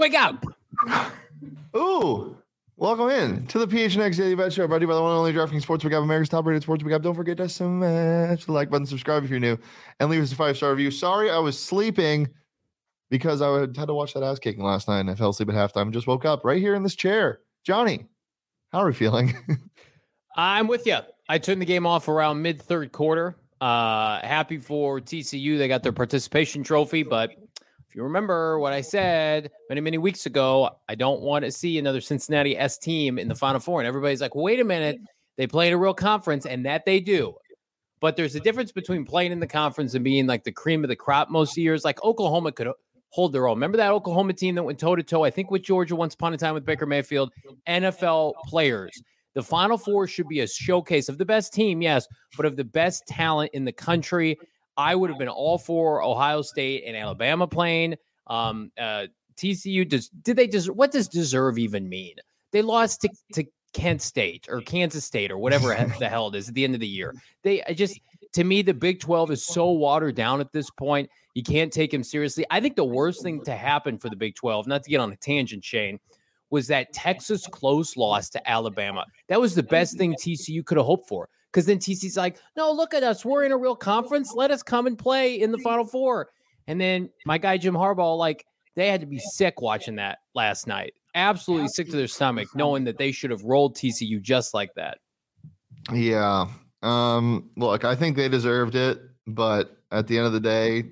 Wake up. Ooh. Welcome in to the PHNX Daily Bet Show, brought to you by the one and only DraftKings Sportsbook app, America's top-rated sportsbook app. Don't forget to smash the like button, subscribe if you're new, and leave us a 5-star review. Sorry, I was sleeping because I had to watch that ass kicking last night, and I fell asleep at halftime and just woke up right here in this chair. Johnny, how are we feeling? I'm with you. I turned the game off around mid-third quarter. Happy for TCU. They got their participation trophy, but if you remember what I said many weeks ago, I don't want to see another Cincinnati S team in the Final Four. And everybody's like, wait a minute, they play in a real conference, and that they do. But there's a difference between playing in the conference and being like the cream of the crop most years. Like Oklahoma could hold their own. Remember that Oklahoma team that went toe-to-toe, I think, with Georgia once upon a time with Baker Mayfield? NFL players. The Final Four should be a showcase of the best team, yes, but of the best talent in the country. I would have been all for Ohio State and Alabama playing. TCU, what does deserve even mean? They lost to Kent State or Kansas State or whatever the hell it is at the end of the year. To me, the Big 12 is so watered down at this point. You can't take him seriously. I think the worst thing to happen for the Big 12, not to get on a tangent, Shane, was that Texas close loss to Alabama. That was the best thing TCU could have hoped for. Because then TC's like, no, look at us. We're in a real conference. Let us come and play in the Final Four. And then my guy, Jim Harbaugh, like, they had to be sick watching that last night. Absolutely sick to their stomach, knowing that they should have rolled TCU just like that. Yeah. Look, I think they deserved it. But at the end of the day,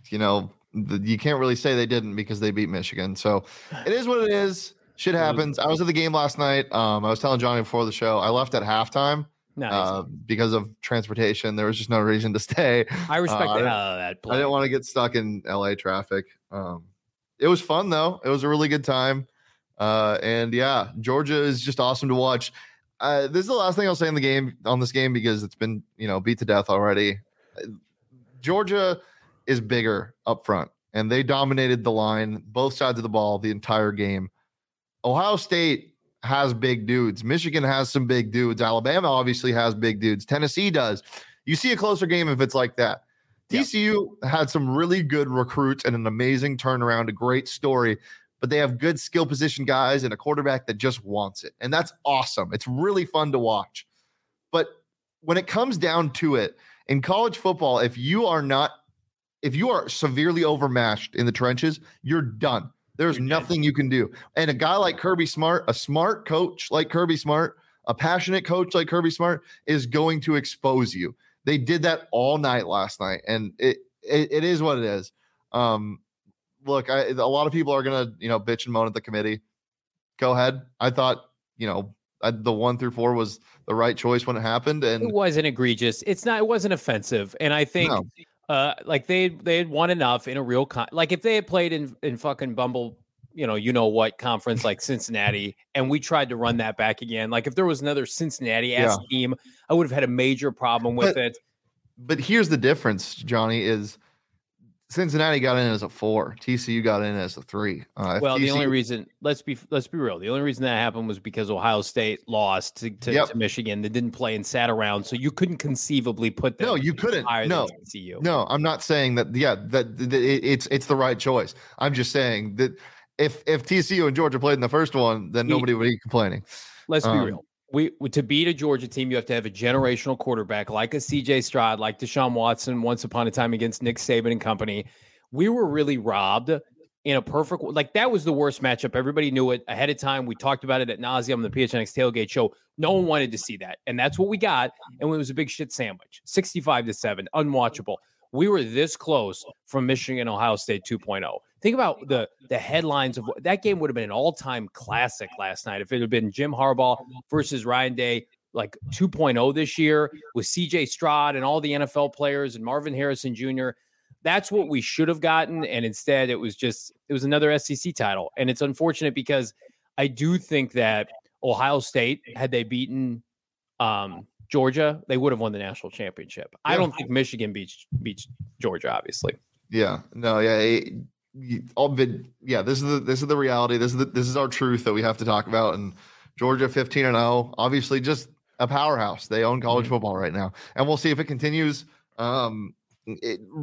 you can't really say they didn't because they beat Michigan. So it is what it is. Shit happens. I was at the game last night. I was telling Johnny before the show, I left at halftime. Nice. Because of transportation, there was just no reason to stay. I respect the hell out of that play. I didn't want to get stuck in LA traffic. It was fun though. It was a really good time. And yeah, Georgia is just awesome to watch. This is the last thing I'll say on this game because it's been, beat to death already. Georgia is bigger up front and they dominated the line, both sides of the ball the entire game. Ohio State has big dudes. Michigan has some big dudes. Alabama obviously has big dudes. Tennessee does. You see a closer game if it's like that. Yeah. TCU had some really good recruits and an amazing turnaround, a great story, but they have good skill position guys and a quarterback that just wants it. And that's awesome. It's really fun to watch. But when it comes down to it, in college football, if you are severely overmatched in the trenches, you're done. There's nothing you can do. And a guy like Kirby Smart, a smart coach like Kirby Smart, a passionate coach like Kirby Smart is going to expose you. They did that all night last night, and it is what it is. Look, a lot of people are going to, bitch and moan at the committee. Go ahead. I thought, the 1 through 4 was the right choice when it happened. And it wasn't egregious. It wasn't offensive. And I think they had won enough in a real like if they had played in fucking Bumble, what conference like Cincinnati, and we tried to run that back again. Like if there was another Cincinnati ass team, I would have had a major problem with it. But here's the difference, Johnny, is Cincinnati got in as a 4. TCU got in as a 3. The only reason, let's be real, the only reason that happened was because Ohio State lost to Michigan. They didn't play and sat around, so you couldn't conceivably put them. No, you couldn't. No, TCU. No, I'm not saying that. Yeah, that it's the right choice. I'm just saying that if TCU and Georgia played in the first one, then nobody would be complaining. Let's be real. To beat a Georgia team, you have to have a generational quarterback like a CJ Stroud, like Deshaun Watson once upon a time against Nick Saban and company. We were really robbed in a perfect, like that was the worst matchup. Everybody knew it ahead of time. We talked about it at nauseum on the PHNX Tailgate Show. No one wanted to see that. And that's what we got. And it was a big shit sandwich, 65-7, unwatchable. We were this close from Michigan, Ohio State 2.0. Think about the headlines of that game would have been an all-time classic last night if it had been Jim Harbaugh versus Ryan Day, like 2.0 this year with CJ Stroud and all the NFL players and Marvin Harrison Jr. That's what we should have gotten. And instead it was another SEC title. And it's unfortunate because I do think that Ohio State, had they beaten Georgia, they would have won the national championship. Yeah. I don't think Michigan beats Georgia, obviously. Yeah, no, yeah. This is the reality. This is our truth that we have to talk about. And Georgia 15-0, obviously just a powerhouse. They own college football right now, and we'll see if it continues.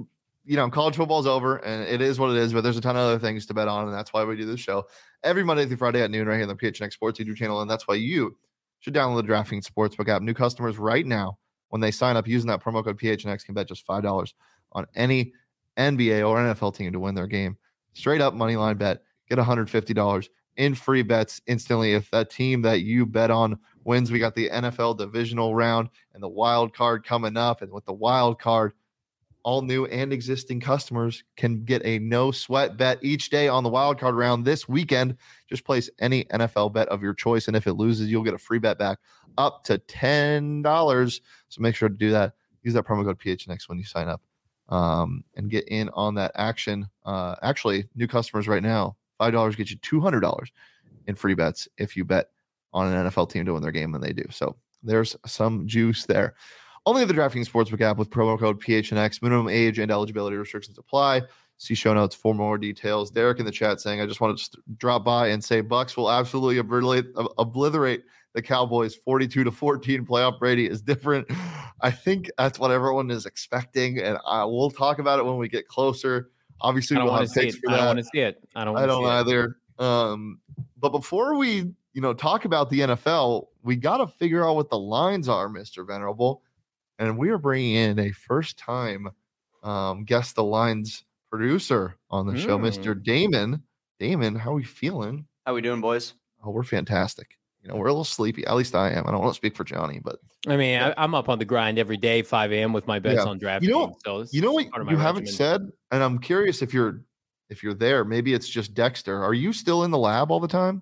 college football's over and it is what it is, but there's a ton of other things to bet on. And that's why we do this show every Monday through Friday at noon right here on the PHNX Sports YouTube channel. And that's why you should download the DraftKings Sportsbook app. New customers right now, when they sign up using that promo code PHNX, can bet just $5 on any NBA or NFL team to win their game. Straight up money line bet. Get $150 in free bets instantly if that team that you bet on wins. We got the NFL divisional round and the wild card coming up. And with the wild card, all new and existing customers can get a no sweat bet each day on the wild card round this weekend. Just place any NFL bet of your choice. And if it loses, you'll get a free bet back up to $10. So make sure to do that. Use that promo code PHNX when you sign up and get in on that action. Actually, new customers right now, $5 gets you $200 in free bets if you bet on an NFL team to win their game when they do. So there's some juice there. Only the DraftKings Sportsbook app with promo code PHNX. Minimum age and eligibility restrictions apply. See show notes for more details. Derek in the chat saying, I just wanted to drop by and say Bucks will absolutely obliterate the Cowboys 42-14. Playoff Brady is different. I think that's what everyone is expecting, and we'll talk about it when we get closer. Obviously, we'll have picks for that. I don't want to see it. I don't either. But before we talk about the NFL, we got to figure out what the lines are, Mr. Venerable. And we are bringing in a first-time guess the lines producer on the show, Mr. Damon. Damon, how are we feeling? How we doing, boys? Oh, we're fantastic. We're a little sleepy. At least I am. I don't want to speak for Johnny, but I mean, I'm up on the grind every day, 5 a.m. with my bets on DraftKings. So you know what you haven't said, and I'm curious if you're there. Maybe it's just Dexter. Are you still in the lab all the time?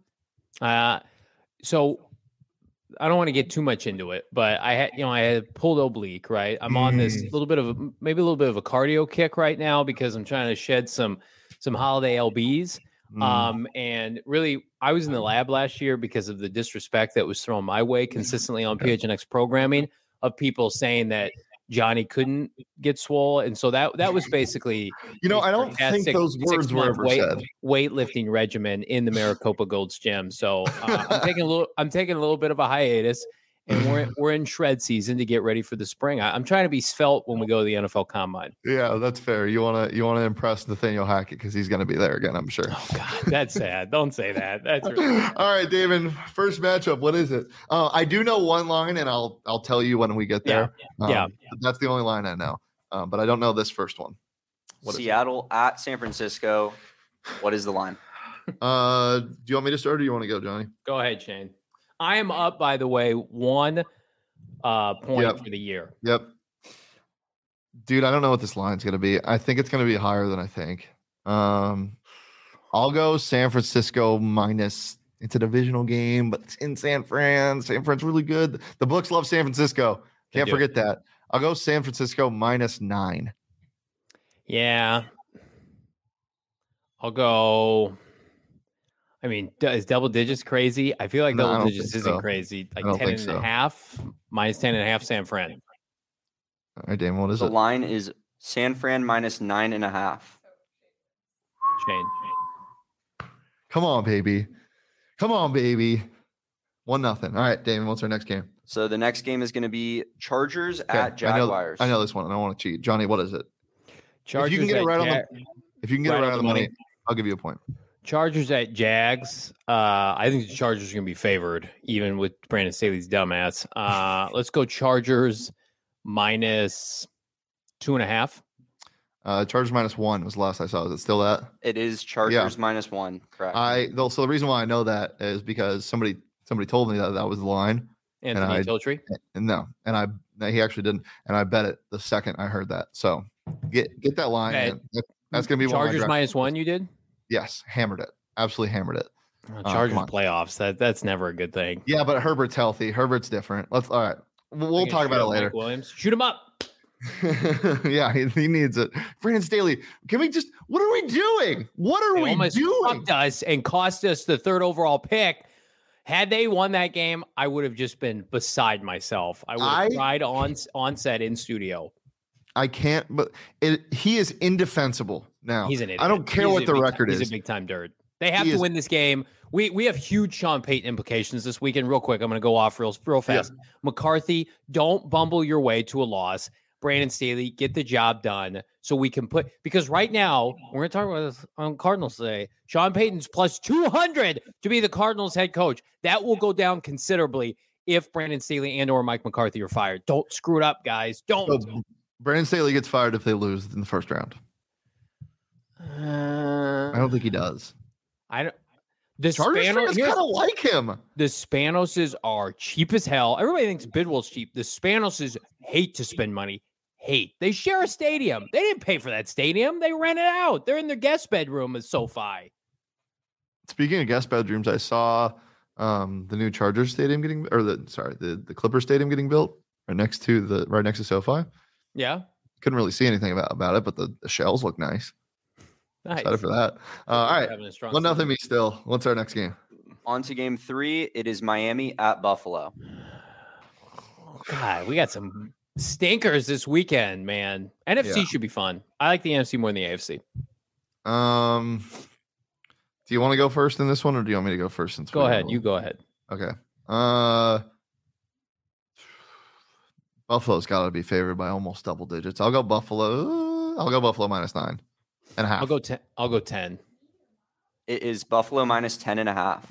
So I don't want to get too much into it, but I had pulled oblique, right? I'm on this little bit of a cardio kick right now because I'm trying to shed some holiday LBs. And really, I was in the lab last year because of the disrespect that was thrown my way consistently on PHNX programming of people saying that Johnny couldn't get swole. And so that was basically, I don't think those words were ever said. Weightlifting regimen in the Maricopa Gold's Gym. So I'm taking a little bit of a hiatus, and we're in shred season to get ready for the spring. I'm trying to be svelte when we go to the NFL Combine. Yeah, that's fair. You want to impress Nathaniel Hackett because he's going to be there again, I'm sure. Oh God, that's sad. Don't say that. That's really all right, David. First matchup. What is it? I do know one line, and I'll tell you when we get there. Yeah. That's the only line I know. But I don't know this first one. Seattle at San Francisco. What is the line? Do you want me to start, or do you want to go, Johnny? Go ahead, Shane. I am up, by the way, 1 point for the year. Yep. Dude, I don't know what this line's going to be. I think it's going to be higher than I think. I'll go San Francisco minus. It's a divisional game, but it's in San Fran. San Fran's really good. The books love San Francisco. Can't forget that. I'll go San Francisco -9. Yeah. I'll go. I mean, is double digits crazy? I feel like double digits isn't crazy. Like 10.5, -10.5 San Fran. All right, Damon, what is it? The line is San Fran -9.5. Shane. Come on, baby. 1-0. All right, Damon, what's our next game? So the next game is going to be Chargers at Jaguars. I know this one. I don't want to cheat. Johnny, what is it? Chargers. If you can get it right on the money, I'll give you a point. Chargers at Jags. I think the Chargers are going to be favored, even with Brandon Staley's dumbass. Let's go Chargers -2.5. Chargers -1 was the last I saw. Is it still that? It is Chargers -1. Correct. So the reason why I know that is because somebody told me that was the line. Anthony Tiltree? No, he actually didn't, and I bet it the second I heard that. So get that line. That's going to be Chargers -1. You did? Yes, hammered it. Absolutely hammered it. Chargers playoffs. That's never a good thing. Yeah, but Herbert's healthy. Herbert's different. All right. We'll talk about it later. Mike Williams, shoot him up. Yeah, he needs it. Brandon Staley, can we just? What are we doing? What are we doing? Fucked us and cost us the 3rd overall pick. Had they won that game, I would have just been beside myself. I would have cried on set in studio. I can't, but he is indefensible now. He's an idiot. I don't care what the record is. He's a big time dirt. They have to win this game. We have huge Sean Payton implications this weekend. Real quick, I'm going to go off real fast. Yeah. McCarthy, don't bumble your way to a loss. Brandon Staley, get the job done so we can because right now, we're going to talk about this on Cardinals today. Sean Payton's plus 200 to be the Cardinals head coach. That will go down considerably if Brandon Staley and or Mike McCarthy are fired. Don't screw it up, guys. Don't. So Brandon Staley gets fired if they lose in the first round. I don't think he does. The Chargers fans kind of like him. The Spanoses are cheap as hell. Everybody thinks Bidwell's cheap. The Spanoses hate to spend money. They share a stadium. They didn't pay for that stadium. They rent it out. They're in their guest bedroom at SoFi. Speaking of guest bedrooms, I saw the new Chargers stadium the Clippers stadium getting built right next to SoFi. Yeah. Couldn't really see anything about it, but the shells look nice. Nice. Excited for that. All right. 1-0 me still. What's our next game? On to game 3. It is Miami at Buffalo. God, we got some stinkers this weekend, man. NFC should be fun. I like the NFC more than the AFC. Do you want to go first in this one, or do you want me to go first? Go ahead. You go ahead. Okay. Buffalo's got to be favored by almost double digits. I'll go Buffalo. I'll go Buffalo -9.5. I'll go 10. It is Buffalo -10.5.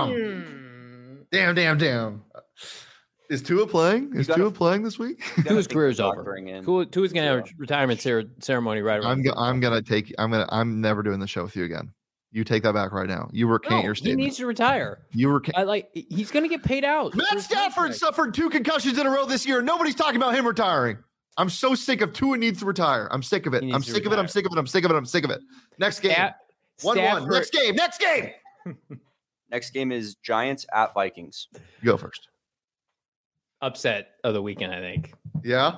Damn. Is Tua playing? Is Tua playing this week? Tua's career's over. Tua's gonna have a retirement ceremony right around. I'm never doing the show with you again. You take that back right now. You recant your statement. He needs to retire. He's gonna get paid out. Matt Stafford suffered 2 concussions in a row this year. Nobody's talking about him retiring. I'm so sick of Tua needs to retire. I'm sick of it. I'm sick of it. Next game. 1-1. Next game. Next game is Giants at Vikings. You go first. Upset of the weekend, I think. Yeah.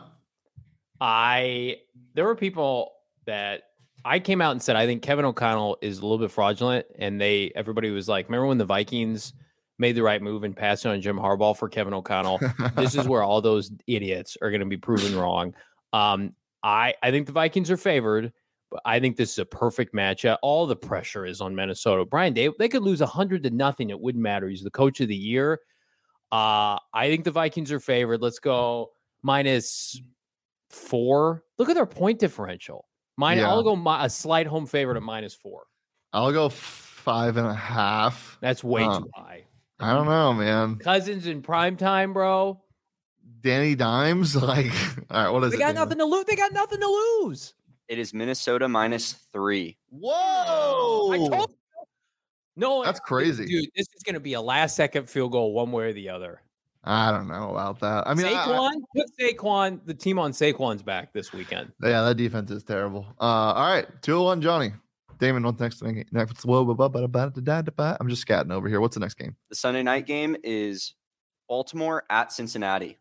There were people that I came out and said, I think Kevin O'Connell is a little bit fraudulent. And everybody was like, remember when the Vikings made the right move and passed on Jim Harbaugh for Kevin O'Connell? This is where all those idiots are going to be proven wrong. I think the Vikings are favored, but I think this is a perfect matchup. All the pressure is on Minnesota. Brian, they could lose 100-0. It wouldn't matter. He's the coach of the year. I think the Vikings are favored. Let's go -4. Look at their point differential. I'll go a slight home favorite at -4. I'll go 5.5. That's way too high. I don't know, man. Cousins in prime time, bro. Danny Dimes, all right. What is it? They got nothing to lose. They got nothing to lose. It is Minnesota -3. Whoa! I told you. No, that's crazy, dude. This is going to be a last-second field goal, one way or the other. I don't know about that. I mean, put Saquon. The team on Saquon's back this weekend. Yeah, that defense is terrible. All right, 2-1, Johnny. Damon, what's next? I'm just scatting over here. What's the next game? The Sunday night game is Baltimore at Cincinnati.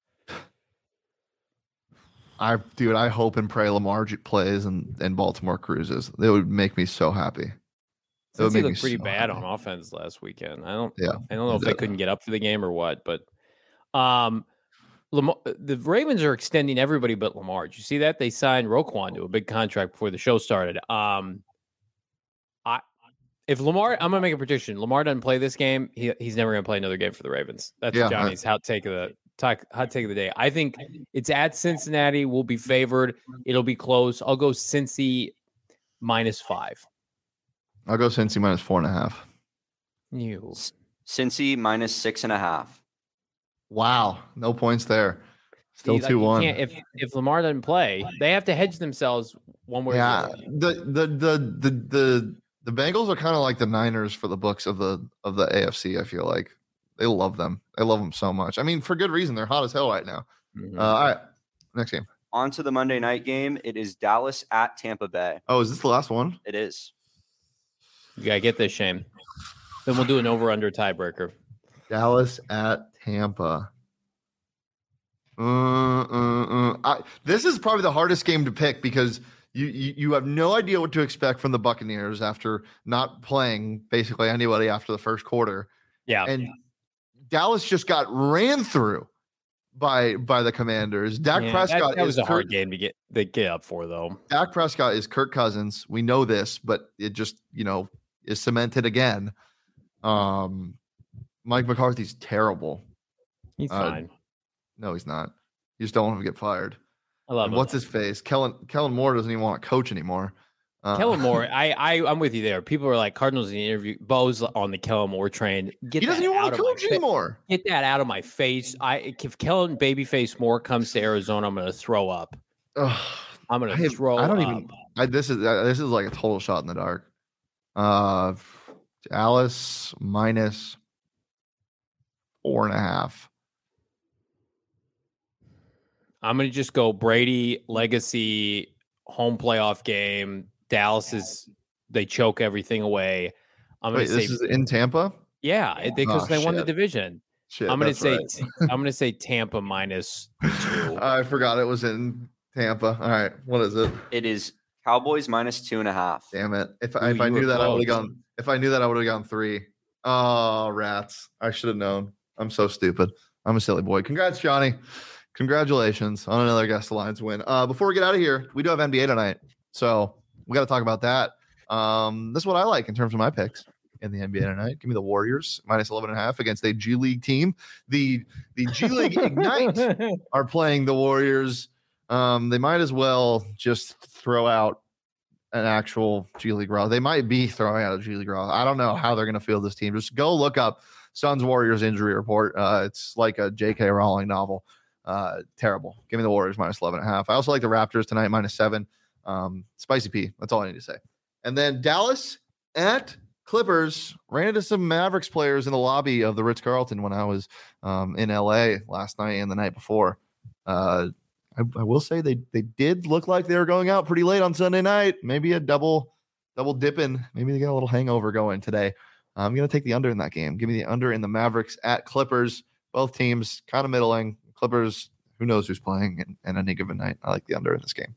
I hope and pray Lamar plays and Baltimore cruises. It would make me so happy. Since he looked pretty bad on offense last weekend. I don't know if they couldn't get up for the game or what, but Lamar, the Ravens are extending everybody but Lamar. Did you see that? They signed Roquan to a big contract before the show started. If Lamar, I'm gonna make a prediction. Lamar doesn't play this game, he's never gonna play another game for the Ravens. That's Johnny's hot take of the day. I think it's at Cincinnati. We'll be favored. It'll be close. I'll go Cincy -5. I'll go Cincy -4.5. You Cincy -6.5. Wow, no points there. Still 2-1. If Lamar doesn't play, they have to hedge themselves one way. Yeah, the Bengals are kind of like the Niners for the books of the AFC. I feel like they love them. They love them so much. I mean, for good reason. They're hot as hell right now. Mm-hmm. All right, next game. On to the Monday night game. It is Dallas at Tampa Bay. Oh, is this the last one? It is. You gotta get this, Shane. Then we'll do an over/under tiebreaker. Dallas at Tampa. This is probably the hardest game to pick because you have no idea what to expect from the Buccaneers after not playing basically anybody after the first quarter. Yeah, and Dallas just got ran through by the Commanders. Dak Prescott that was a hard game to get up for, though. Dak Prescott is Kirk Cousins. We know this, but it just is cemented again. Mike McCarthy's terrible. He's fine. No, he's not. You just don't want him to get fired. I love And him. what's his face? Kellen Moore doesn't even want to coach anymore. Kellen Moore, I'm with you there. People are like Cardinals in the interview. Bo's on the Kellen Moore train. He doesn't even want to coach anymore. Get that out of my face. If Kellen Babyface Moore comes to Arizona, I'm going to throw up. I'm going to throw. I don't even. This is like a total shot in the dark. Dallas minus 4.5. I'm going to just go Brady legacy home playoff game. Dallas they choke everything away. I'm going to say this is in Tampa. Yeah, because they won the division. Shit, I'm going to say I'm going to say Tampa minus 2. I forgot it was in Tampa. All right, what is it? It is Cowboys minus 2.5. Damn it! If I knew that, I would have gone. If I knew that, I would have gone 3. Oh, rats! I should have known. I'm so stupid. I'm a silly boy. Congrats, Johnny. Congratulations on another Guest Alliance win. Before we get out of here, we do have NBA tonight, so we got to talk about that. This is what I like in terms of my picks in the NBA tonight. Give me the Warriors minus 11.5 against a G League team. The G League Ignite are playing the Warriors. They might as well just throw out an actual G League Raw. They might be throwing out a G League Raw. I don't know how they're going to field this team. Just go look up Suns Warriors injury report. It's like a J.K. Rowling novel. Terrible. Give me the Warriors minus 11.5. I also like the Raptors tonight minus 7. Spicy P. That's all I need to say. And then Dallas at Clippers. Ran into some Mavericks players in the lobby of the Ritz-Carlton when I was in LA last night and the night before. I will say they did look like they were going out pretty late on Sunday night. Maybe a double dipping. Maybe they got a little hangover going today. I'm going to take the under in that game. Give me the under in the Mavericks at Clippers. Both teams kind of middling. Clippers, who knows who's playing in any given night. I like the under in this game.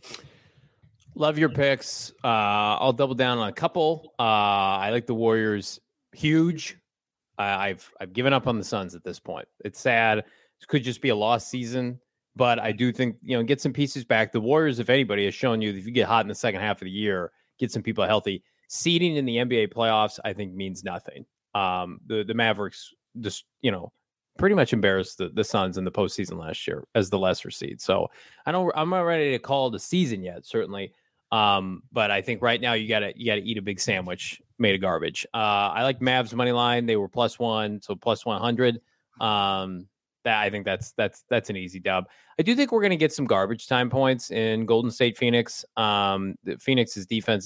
Love your picks. I'll double down on a couple. I like the Warriors huge. I've given up on the Suns at this point. It's sad. It could just be a lost season, but I do think, get some pieces back. The Warriors, if anybody, has shown you that if you get hot in the second half of the year, get some people healthy. Seeding in the NBA playoffs, I think, means nothing. The Mavericks just, pretty much embarrassed the Suns in the postseason last year as the lesser seed. So I'm not ready to call it a season yet, certainly. But I think right now you gotta eat a big sandwich made of garbage. I like Mavs money line. They were +1, so +100. That I think that's an easy dub. I do think we're going to get some garbage time points in Golden State Phoenix. Golden State's defense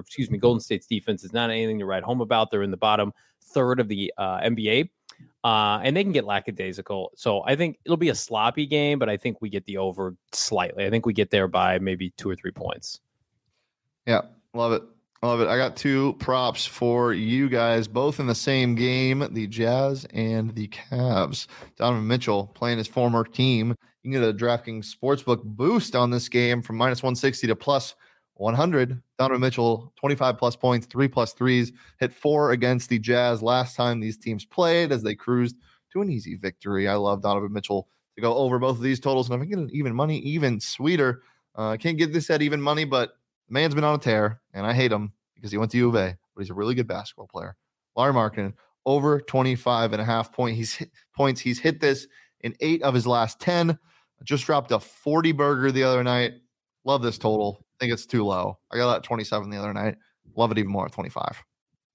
is not anything to write home about. They're in the bottom third of the NBA. And they can get lackadaisical. So I think it'll be a sloppy game, but I think we get the over slightly. I think we get there by maybe 2 or 3 points. Yeah, love it. Love it. I got 2 props for you guys, both in the same game, the Jazz and the Cavs. Donovan Mitchell playing his former team. You can get a DraftKings Sportsbook boost on this game from -160 to +100. Donovan Mitchell, 25+ points, 3+ threes, hit 4 against the Jazz last time these teams played as they cruised to an easy victory. I love Donovan Mitchell to go over both of these totals. And if I can get an even money, even sweeter. I can't get this at even money, but the man's been on a tear, and I hate him because he went to U of A, but he's a really good basketball player. Lauri Markkanen, over 25.5 points. He's hit this in 8 of his last 10. Just dropped a 40 burger the other night. Love this total. I think it's too low. I got that at 27 the other night. Love it even more at 25.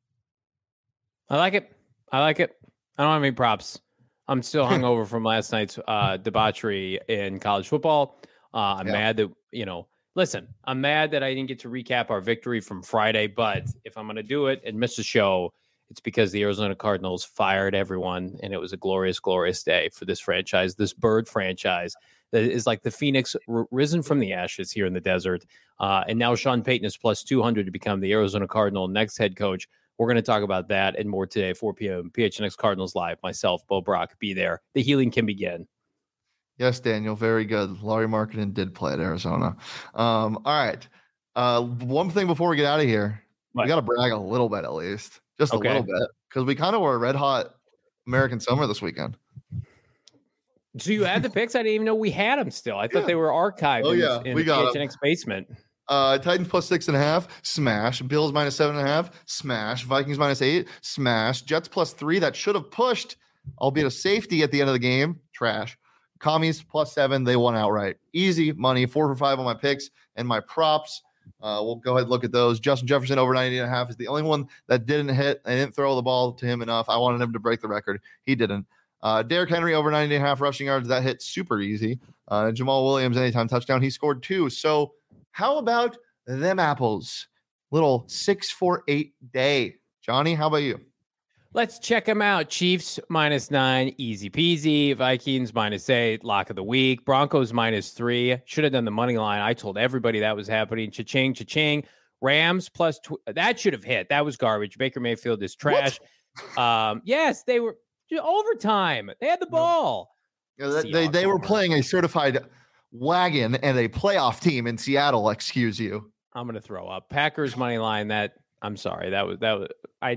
I like it. I don't have any props. I'm still hungover from last night's debauchery in college football. I'm mad that, listen, I'm mad that I didn't get to recap our victory from Friday, but if I'm going to do it and miss a show, it's because the Arizona Cardinals fired everyone, and it was a glorious, glorious day for this franchise, this bird franchise that is like the phoenix risen from the ashes here in the desert. And now Sean Payton is +200 to become the Arizona Cardinal next head coach. We're going to talk about that and more today, 4 p.m. PHNX Cardinals Live. Myself, Bo Brock, be there. The healing can begin. Yes, Daniel, very good. Lauri Markkanen did play at Arizona. All right. One thing before we get out of here, we got to brag a little bit at least, just a little bit, because we kind of were red hot American summer this weekend. So you had the picks? I didn't even know we had them still. I thought they were archived in the PHNX basement. Titans +6.5, smash. Bills -7.5, smash. Vikings -8, smash. Jets +3, that should have pushed, albeit a safety at the end of the game, trash. Commies +7. They won outright. Easy money. 4 for 5 on my picks and my props. We'll go ahead and look at those. Justin Jefferson over 90.5 is the only one that didn't hit. I didn't throw the ball to him enough. I wanted him to break the record. He didn't. Derrick Henry over 90.5 rushing yards. That hit super easy. Jamal Williams anytime touchdown. He scored 2. So how about them apples? Little 6-4-8 day. Johnny, how about you? Let's check them out. Chiefs -9, easy peasy. Vikings -8, lock of the week. Broncos -3. Should have done the money line. I told everybody that was happening. Cha-ching, cha-ching. Rams that should have hit. That was garbage. Baker Mayfield is trash. Yes, they were overtime. They had the ball. They were playing a certified wagon and a playoff team in Seattle. Excuse you. I'm gonna throw up. Packers money line. I'm sorry. That was.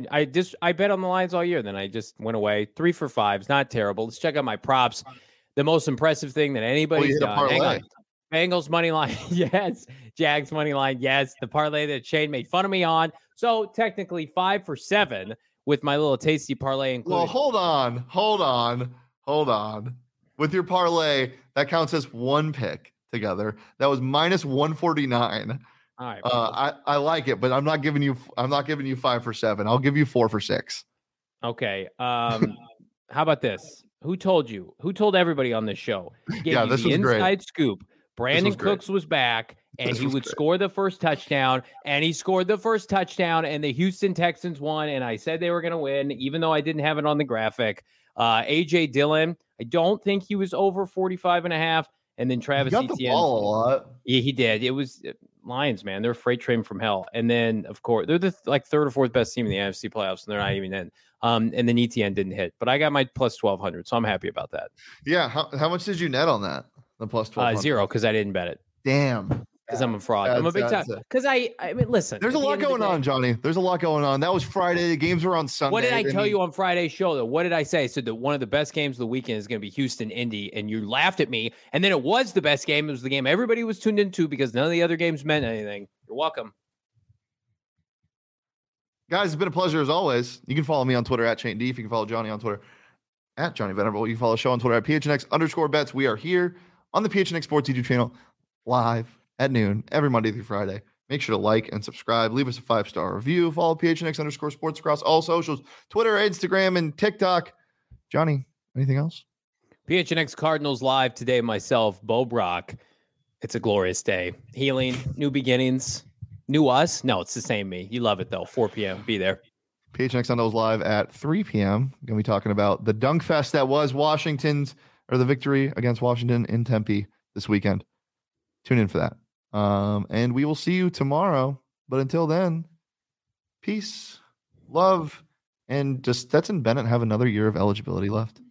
I bet on the lines all year. Then I just went away. 3 for 5 is not terrible. Let's check out my props. The most impressive thing that anybody's done. Hang on. Bengals money line. Yes. Jags money line. Yes. The parlay that Shane made fun of me on. So technically 5 for 7 with my little tasty parlay included. Well, hold on. With your parlay, that counts as one pick together. That was -149. All right. I like it, but I'm not giving you 5 for 7. I'll give you 4 for 6. Okay. How about this? Who told you? Who told everybody on this show? Yeah, this was great. Inside scoop. Brandon Cooks was back, and he would score the first touchdown, and he scored the first touchdown, and the Houston Texans won, and I said they were going to win, even though I didn't have it on the graphic. A.J. Dillon, I don't think he was over 45.5, and then Travis Etienne. He got the ball a lot. Yeah, he did. It was Lions, man. They're a freight train from hell. And then, of course, they're the third or fourth best team in the NFC playoffs, and they're not even in. And then Etienne didn't hit, but I got my plus 1,200, so I'm happy about that. Yeah. How much did you net on that? The plus 1,200? 0, because I didn't bet it. Damn. Because I'm a fraud. I'm a big time. Because I mean, listen. There's a lot going on, Johnny. There's a lot going on. That was Friday. The games were on Sunday. What did I tell you on Friday's show, though? What did I say? I said that one of the best games of the weekend is going to be Houston-Indy, and you laughed at me. And then it was the best game. It was the game everybody was tuned into because none of the other games meant anything. You're welcome. Guys, it's been a pleasure as always. You can follow me on Twitter at Shane D. If you can follow Johnny on Twitter at Johnny Venerable. You can follow the show on Twitter at PHNX_bets. We are here on the PHNX Sports YouTube channel live at noon every Monday through Friday. Make sure to like and subscribe. Leave us a 5-star review. Follow PHNX_sports across all socials, Twitter, Instagram, and TikTok. Johnny, anything else? PHNX Cardinals live today. Myself, Bo Brock. It's a glorious day. Healing, new beginnings, new us. No, it's the same me. You love it, though. 4 p.m. Be there. PHNX Sundays live at 3 p.m. Going to be talking about the dunk fest that was the victory against Washington in Tempe this weekend. Tune in for that. And we will see you tomorrow. But until then, peace, love, and just Stetson Bennett have another year of eligibility left.